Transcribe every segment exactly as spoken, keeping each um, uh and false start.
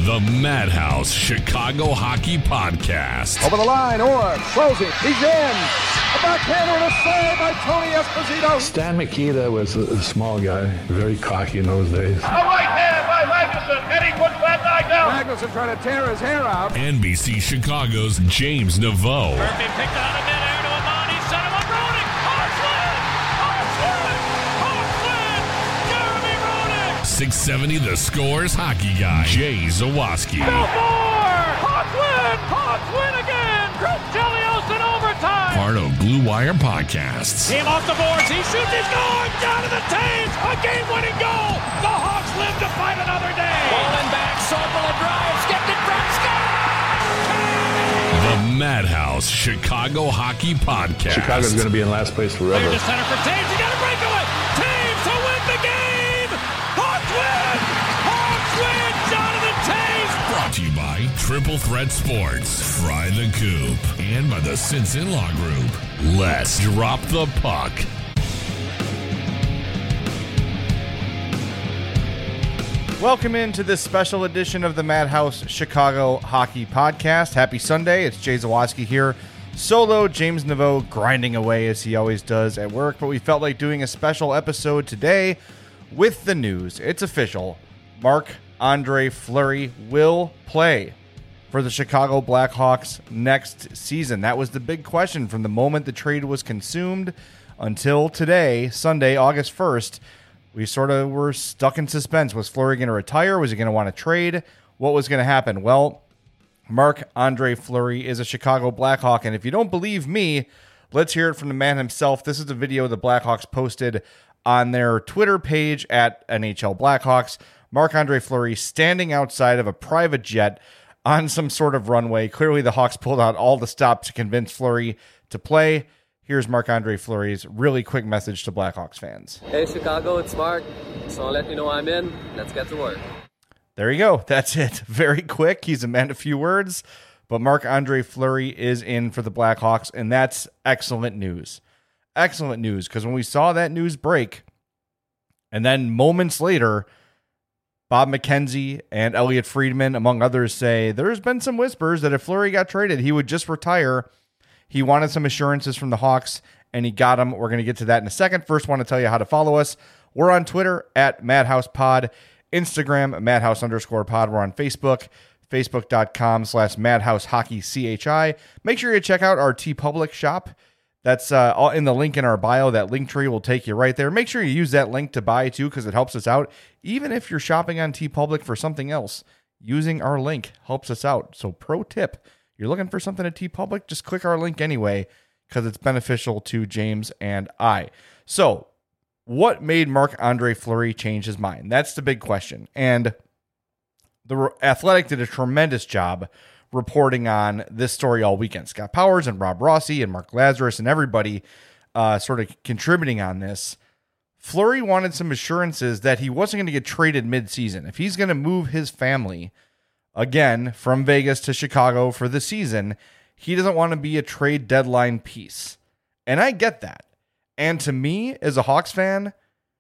The Madhouse Chicago Hockey Podcast. Over the line, Orr, closing, he's in. A backhander and a save by Tony Esposito. Stan Mikita was a, a small guy, very cocky in those days. A right hand by Magnuson, and he puts that guy down. Magnuson trying to tear his hair out. N B C Chicago's James Naveau. Murphy picked out of midair to Amon. He set him up, Roenick. Hartland! Hartland! Hartland! Jeremy Roenick! six seventy The Score's hockey guy, Jay Zawaski. Belfort! Hawks win! Hawks win again! Chris Chelios in overtime! Part of Blue Wire Podcasts. Team off the boards. He shoots. He scores! Down to the Taves! A game-winning goal! The Hawks live to fight another day! Bowling back. Sokola drives. Skipped it from Scott! The Madhouse Chicago Hockey Podcast. Chicago's going to be in last place forever. Clear to center for Taves. He got a breakaway! Taves to win the game! Hawks win! Hawks win! Jonathan Taves! Brought to you by Triple Threat Sports, Fry the Coop, and by the Simpson Law Group. Let's drop the puck. Welcome into this special edition of the Madhouse Chicago Hockey Podcast. Happy Sunday. It's Jay Zawaski here. Solo, James Naveau grinding away as he always does at work, but we felt like doing a special episode today with the news. It's official. Marc-Andre Fleury will play for the Chicago Blackhawks next season. That was the big question from the moment the trade was consumed until today, Sunday, August first. We sort of were stuck in suspense. Was Fleury going to retire? Was he going to want to trade? What was going to happen? Well, Marc-Andre Fleury is a Chicago Blackhawk, and if you don't believe me, let's hear it from the man himself. This is a video the Blackhawks posted on their Twitter page at N H L Blackhawks. Marc-Andre Fleury standing outside of a private jet on some sort of runway. Clearly, the Hawks pulled out all the stops to convince Fleury to play. Here's Marc-Andre Fleury's really quick message to Blackhawks fans. Hey, Chicago, it's Mark. Just want to let you know I'm in. Let's get to work. There you go. That's it. Very quick. He's a man of few words, but Marc-Andre Fleury is in for the Blackhawks, and that's excellent news. Excellent news, because when we saw that news break, and then moments later, Bob McKenzie and Elliot Friedman, among others, say there's been some whispers that if Fleury got traded, he would just retire. He wanted some assurances from the Hawks, and he got them. We're going to get to that in a second. First, want to tell you how to follow us. We're on Twitter at MadhousePod, Instagram, Madhouse underscore pod. We're on Facebook, facebook.com slash MadhouseHockeyCHI. Make sure you check out our TeePublic shop. That's uh, all in the link in our bio. That link tree will take you right there. Make sure you use that link to buy, too, because it helps us out. Even if you're shopping on TeePublic for something else, using our link helps us out. So pro tip. You're looking for something at TeePublic, just click our link anyway, because it's beneficial to James and I. So, what made Marc-Andre Fleury change his mind? That's the big question. And the Athletic did a tremendous job reporting on this story all weekend. Scott Powers and Rob Rossi and Mark Lazarus and everybody uh, sort of contributing on this. Fleury wanted some assurances that he wasn't going to get traded mid-season. If he's going to move his family again from Vegas to Chicago for the season, he doesn't want to be a trade deadline piece. And I get that. And to me, as a Hawks fan,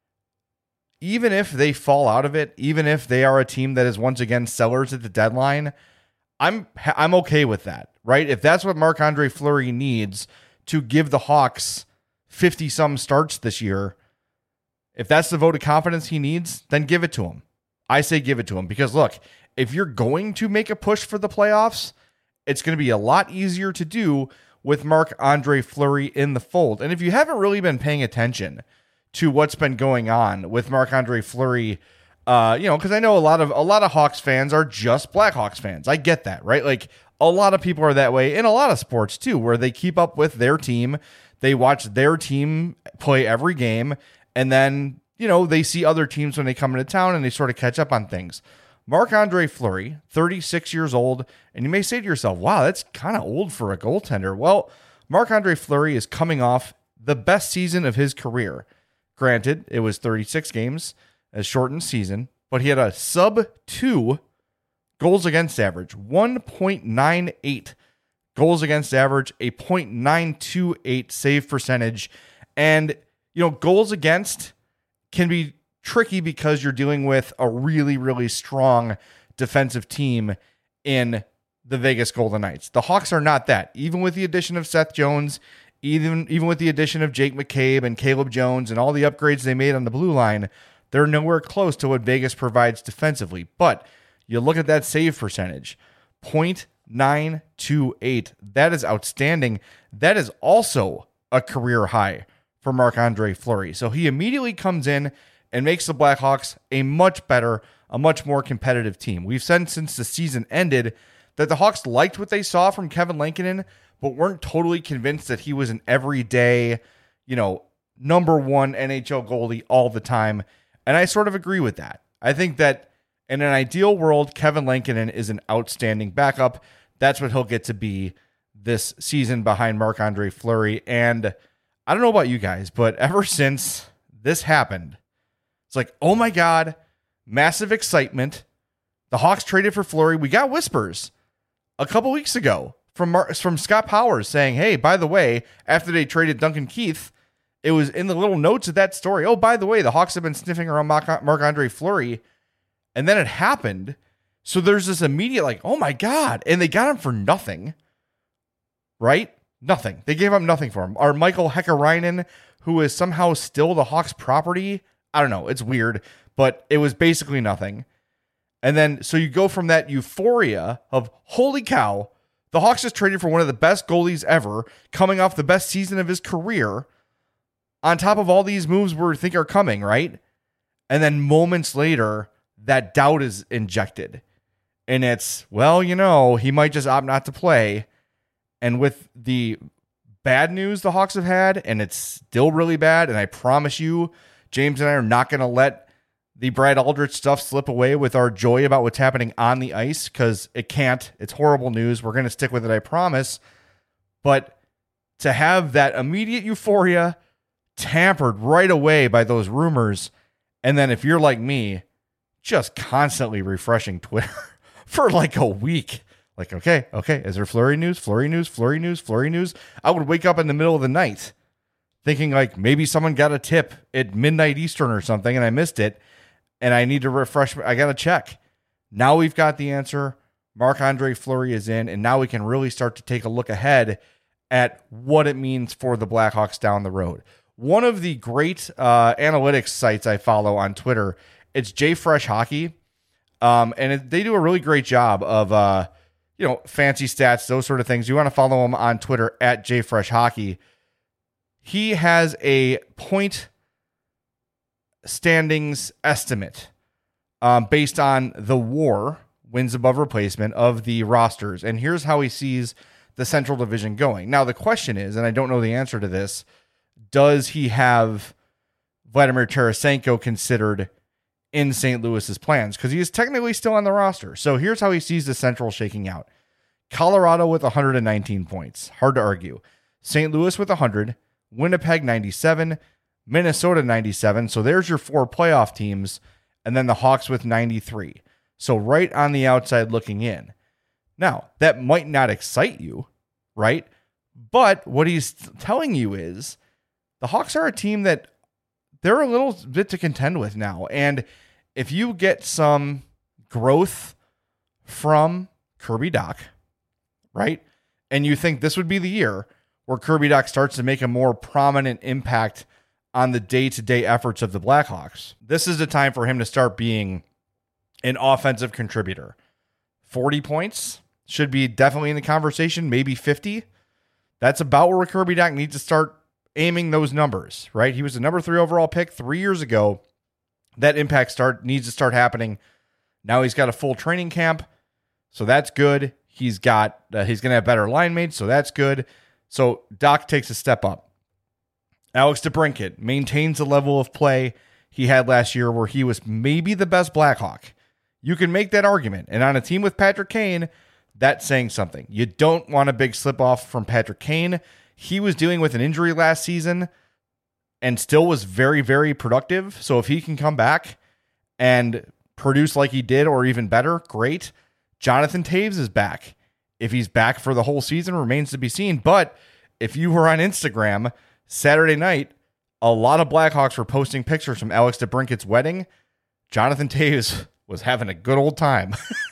even if they fall out of it, even if they are a team that is once again sellers at the deadline, I'm I'm okay with that, right? If that's what Marc-Andre Fleury needs to give the Hawks fifty-some starts this year, if that's the vote of confidence he needs, then give it to him. I say give it to him because, look, if you're going to make a push for the playoffs, it's going to be a lot easier to do with Marc-Andre Fleury in the fold. And if you haven't really been paying attention to what's been going on with Marc-Andre Fleury, uh, you know, because I know a lot of a lot of Hawks fans are just Blackhawks fans. I get that, right? Like a lot of people are that way in a lot of sports too, where they keep up with their team, they watch their team play every game, and then, you know, they see other teams when they come into town and they sort of catch up on things. Marc-Andre Fleury, thirty-six years old, and you may say to yourself, wow, that's kind of old for a goaltender. Well, Marc-Andre Fleury is coming off the best season of his career. Granted, it was thirty-six games, a shortened season, but he had a sub two goals against average, one point nine eight goals against average, a point nine two eight save percentage. And, you know, goals against can be tricky because you're dealing with a really, really strong defensive team in the Vegas Golden Knights. The Hawks are not that. Even with the addition of Seth Jones, even, even with the addition of Jake McCabe and Caleb Jones and all the upgrades they made on the blue line, they're nowhere close to what Vegas provides defensively. But you look at that save percentage, point nine two eight. That is outstanding. That is also a career high for Marc-Andre Fleury. So he immediately comes in and makes the Blackhawks a much better, a much more competitive team. We've said since the season ended that the Hawks liked what they saw from Kevin Lankinen, but weren't totally convinced that he was an everyday, you know, number one N H L goalie all the time. And I sort of agree with that. I think that in an ideal world, Kevin Lankinen is an outstanding backup. That's what he'll get to be this season behind Marc-Andre Fleury. And I don't know about you guys, but ever since this happened, it's like, oh my God, massive excitement. The Hawks traded for Fleury. We got whispers a couple weeks ago from Mar- from Scott Powers saying, hey, by the way, after they traded Duncan Keith, it was in the little notes of that story. Oh, by the way, the Hawks have been sniffing around Marc- Marc-Andre Fleury. And then it happened. So there's this immediate like, oh my God. And they got him for nothing. Right? Nothing. They gave up nothing for him. Our Michael Häkkinen, who is somehow still the Hawks property. I don't know. It's weird. But it was basically nothing. And then, so you go from that euphoria of, holy cow, the Hawks just traded for one of the best goalies ever, coming off the best season of his career, on top of all these moves we think are coming, right? And then moments later, that doubt is injected. And it's, well, you know, he might just opt not to play. And with the bad news the Hawks have had, and it's still really bad, and I promise you, James and I are not going to let the Brad Aldrich stuff slip away with our joy about what's happening on the ice, because it can't. It's horrible news. We're going to stick with it, I promise. But to have that immediate euphoria tampered right away by those rumors, and then if you're like me, just constantly refreshing Twitter for like a week. Like, okay, okay, is there Fleury news, Fleury news, Fleury news, Fleury news? I would wake up in the middle of the night thinking like maybe someone got a tip at midnight Eastern or something and I missed it. And I need to refresh. I got to check. Now we've got the answer. Marc-Andre Fleury is in. And now we can really start to take a look ahead at what it means for the Blackhawks down the road. One of the great uh, analytics sites I follow on Twitter, it's JFresh Hockey. Um, and it, they do a really great job of, uh, you know, fancy stats, those sort of things. You want to follow him on Twitter at JFresh Hockey. He has a point standings estimate um, based on the WAR, wins above replacement, of the rosters. And here's how he sees the Central Division going. Now, the question is, and I don't know the answer to this, does he have Vladimir Tarasenko considered in Saint Louis's plans? Because he is technically still on the roster. So here's how he sees the Central shaking out. Colorado with one hundred nineteen points. Hard to argue. Saint Louis with one hundred. Winnipeg ninety-seven. Minnesota ninety-seven. So there's your four playoff teams. And then the Hawks with ninety-three. So right on the outside looking in. Now, that might not excite you, right? But what he's telling you is the Hawks are a team that they're a little bit to contend with now. And if you get some growth from Kirby Dach, right? And you think this would be the year where Kirby Dach starts to make a more prominent impact on the day-to-day efforts of the Blackhawks. This is the time for him to start being an offensive contributor. forty points should be definitely in the conversation, maybe fifty. That's about where Kirby Dach needs to start aiming those numbers, right? He was the number three overall pick three years ago. That impact start needs to start happening. Now he's got a full training camp, so that's good. He's got uh, he's going to have better line mates, so that's good. So Dach takes a step up. Alex DeBrincat maintains the level of play he had last year where he was maybe the best Blackhawk. You can make that argument. And on a team with Patrick Kane, that's saying something. You don't want a big slip off from Patrick Kane. He was dealing with an injury last season and still was very, very productive. So if he can come back and produce like he did or even better, great. Jonathan Toews is back. If he's back for the whole season, remains to be seen. But if you were on Instagram Saturday night, a lot of Blackhawks were posting pictures from Alex DeBrincat's wedding. Jonathan Toews was having a good old time.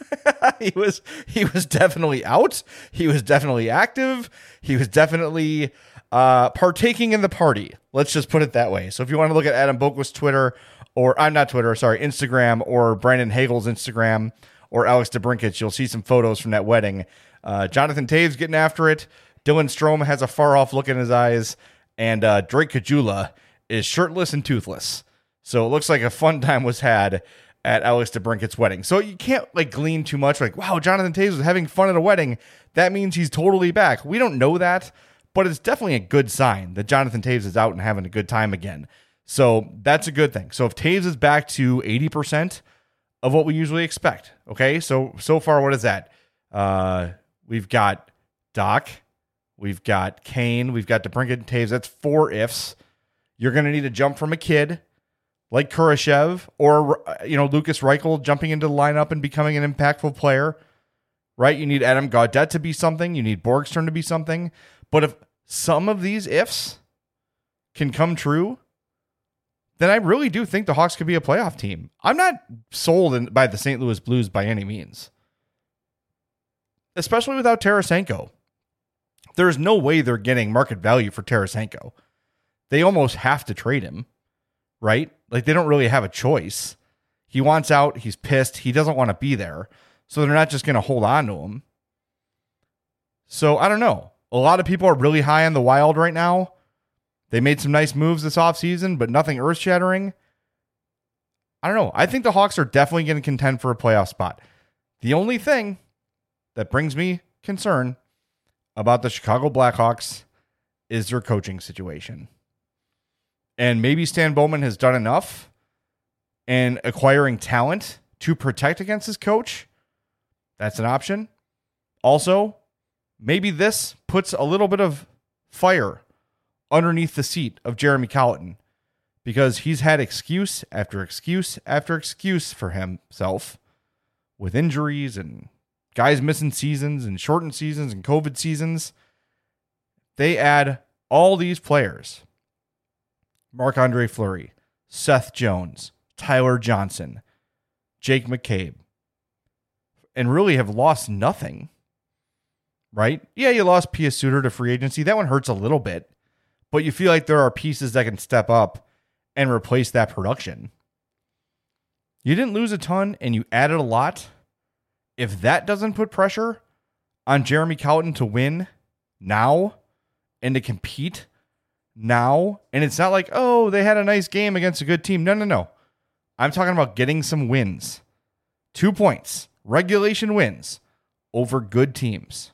he was he was definitely out. He was definitely active. He was definitely uh, partaking in the party. Let's just put it that way. So if you want to look at Adam Boquist's Twitter, or I'm not Twitter, sorry, Instagram, or Brandon Hagel's Instagram, or Alex DeBrincat, you'll see some photos from that wedding. Uh, Jonathan Toews getting after it. Dylan Strome has a far off look in his eyes, and uh, Drake Caggiula is shirtless and toothless. So it looks like a fun time was had at Alex DeBrincat's wedding. So you can't like glean too much like, wow, Jonathan Toews was having fun at a wedding. That means he's totally back. We don't know that, but it's definitely a good sign that Jonathan Toews is out and having a good time again. So that's a good thing. So if Toews is back to eighty percent of what we usually expect, okay? So, so far, what is that? Uh, we've got Doc, we've got Kane, we've got DeBrincat and Toews. That's four ifs. You're going to need a jump from a kid like Kurashev, or, you know, Lucas Reichel jumping into the lineup and becoming an impactful player, right? You need Adam Gaudette to be something. You need Borgstrom to be something. But if some of these ifs can come true, then I really do think the Hawks could be a playoff team. I'm not sold in, by the Saint Louis Blues by any means, especially without Tarasenko. There's no way they're getting market value for Tarasenko. They almost have to trade him, right? Like, they don't really have a choice. He wants out. He's pissed. He doesn't want to be there. So they're not just going to hold on to him. So I don't know. A lot of people are really high on the Wild right now. They made some nice moves this offseason, but nothing earth-shattering. I don't know. I think the Hawks are definitely going to contend for a playoff spot. The only thing that brings me concern about the Chicago Blackhawks is their coaching situation. And maybe Stan Bowman has done enough in acquiring talent to protect against his coach. That's an option. Also, maybe this puts a little bit of fire underneath the seat of Jeremy Colliton, because he's had excuse after excuse after excuse for himself with injuries and guys missing seasons and shortened seasons and COVID seasons. They add all these players: Marc-Andre Fleury, Seth Jones, Tyler Johnson, Jake McCabe, and really have lost nothing, right? Yeah, you lost Pia Suter to free agency. That one hurts a little bit, but you feel like there are pieces that can step up and replace that production. You didn't lose a ton, and you added a lot. If that doesn't put pressure on Jeremy Colliton to win now and to compete now, and it's not like, oh, they had a nice game against a good team. No, no, no. I'm talking about getting some wins. Two points, regulation wins over good teams.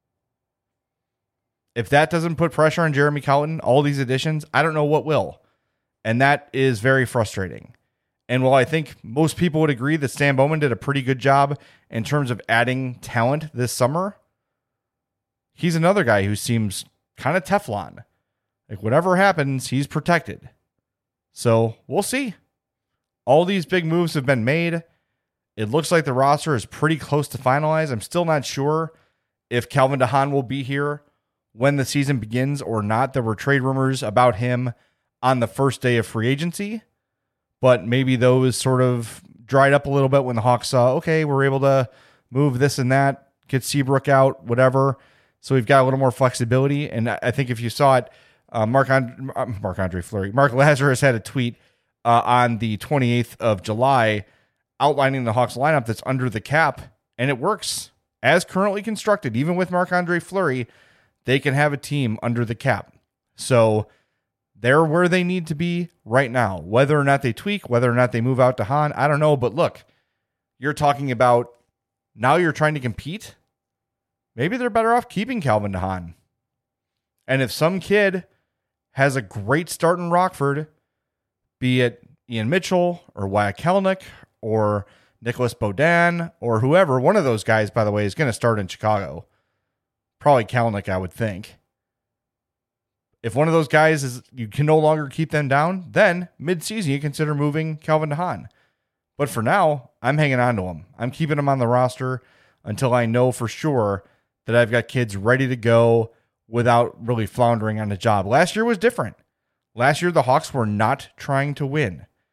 If that doesn't put pressure on Jeremy Colliton, all these additions, I don't know what will. And that is very frustrating. And while I think most people would agree that Stan Bowman did a pretty good job in terms of adding talent this summer, he's another guy who seems kind of Teflon. Like, whatever happens, he's protected. So we'll see. All these big moves have been made. It looks like the roster is pretty close to finalized. I'm still not sure if Calvin DeHaan will be here when the season begins or not. There were trade rumors about him on the first day of free agency, but maybe those sort of dried up a little bit when the Hawks saw, okay, we're able to move this and that, get Seabrook out, whatever. So we've got a little more flexibility. And I think if you saw it, uh, Marc Marc-Andre Fleury, Mark Lazarus had a tweet uh, on the twenty-eighth of July outlining the Hawks lineup that's under the cap, and it works as currently constructed. Even with Marc-Andre Fleury, they can have a team under the cap. So they're where they need to be right now. Whether or not they tweak, whether or not they move out to Han, I don't know. But look, you're talking about now you're trying to compete. Maybe they're better off keeping Calvin DeHaan. And if some kid has a great start in Rockford, be it Ian Mitchell or Wyatt Kelenic or Nicholas Beaudin or whoever, one of those guys, by the way, is going to start in Chicago. Probably Kelenic, I would think. If one of those guys is, you can no longer keep them down, then mid-season you consider moving Calvin DeHaan. But for now, I'm hanging on to him. I'm keeping him on the roster until I know for sure that I've got kids ready to go without really floundering on the job. Last year was different. Last year, the Hawks were not trying to win.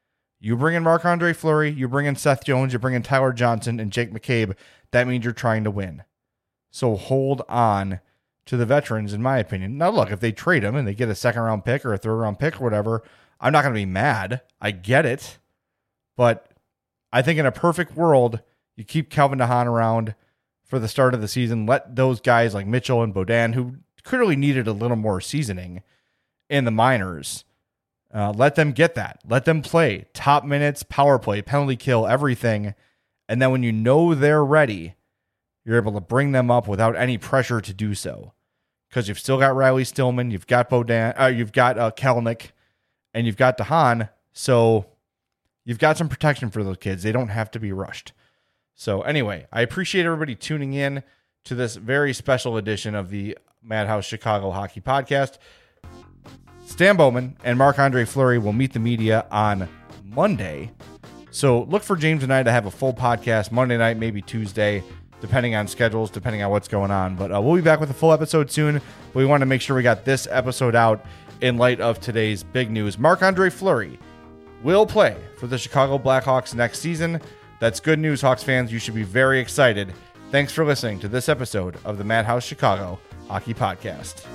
You bring in Marc-Andre Fleury, you bring in Seth Jones, you bring in Tyler Johnson and Jake McCabe. That means you're trying to win. So hold on to the veterans, in my opinion. Now, look, if they trade them and they get a second round pick or a third round pick or whatever, I'm not going to be mad. I get it. But I think in a perfect world, you keep Calvin DeHaan around for the start of the season. Let those guys like Mitchell and Beaudin, who clearly needed a little more seasoning in the minors, uh, let them get that. Let them play top minutes, power play, penalty kill, everything. And then when you know they're ready, you're able to bring them up without any pressure to do so. Because you've still got Riley Stillman, you've got Beaudin, uh, you've got uh, Kelenic, and you've got DeHaan. So you've got some protection for those kids. They don't have to be rushed. So anyway, I appreciate everybody tuning in to this very special edition of the Madhouse Chicago Hockey Podcast. Stan Bowman and Marc-Andre Fleury will meet the media on Monday. So look for James and I to have a full podcast Monday night, maybe Tuesday, depending on schedules, depending on what's going on. But uh, we'll be back with a full episode soon. But we want to make sure we got this episode out in light of today's big news. Marc-Andre Fleury will play for the Chicago Blackhawks next season. That's good news, Hawks fans. You should be very excited. Thanks for listening to this episode of the Madhouse Chicago Hockey Podcast.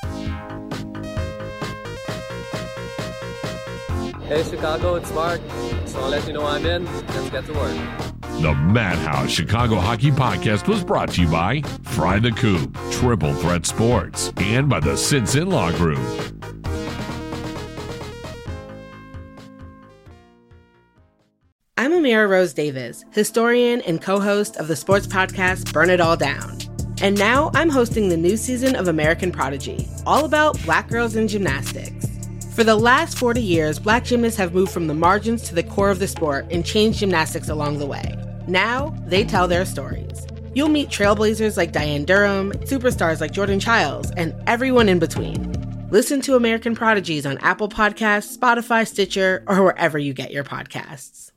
Hey Chicago, it's Mark. So I'll let you know I'm in. Let's get to work. The Madhouse Chicago Hockey Podcast was brought to you by Fry the Coop, Triple Threat Sports, and by the Sinson Law Group. I'm Amira Rose Davis, historian and co-host of the sports podcast Burn It All Down. And now I'm hosting the new season of American Prodigy, all about Black girls in gymnastics. For the last forty years, Black gymnasts have moved from the margins to the core of the sport and changed gymnastics along the way. Now, they tell their stories. You'll meet trailblazers like Diane Durham, superstars like Jordan Childs, and everyone in between. Listen to American Prodigies on Apple Podcasts, Spotify, Stitcher, or wherever you get your podcasts.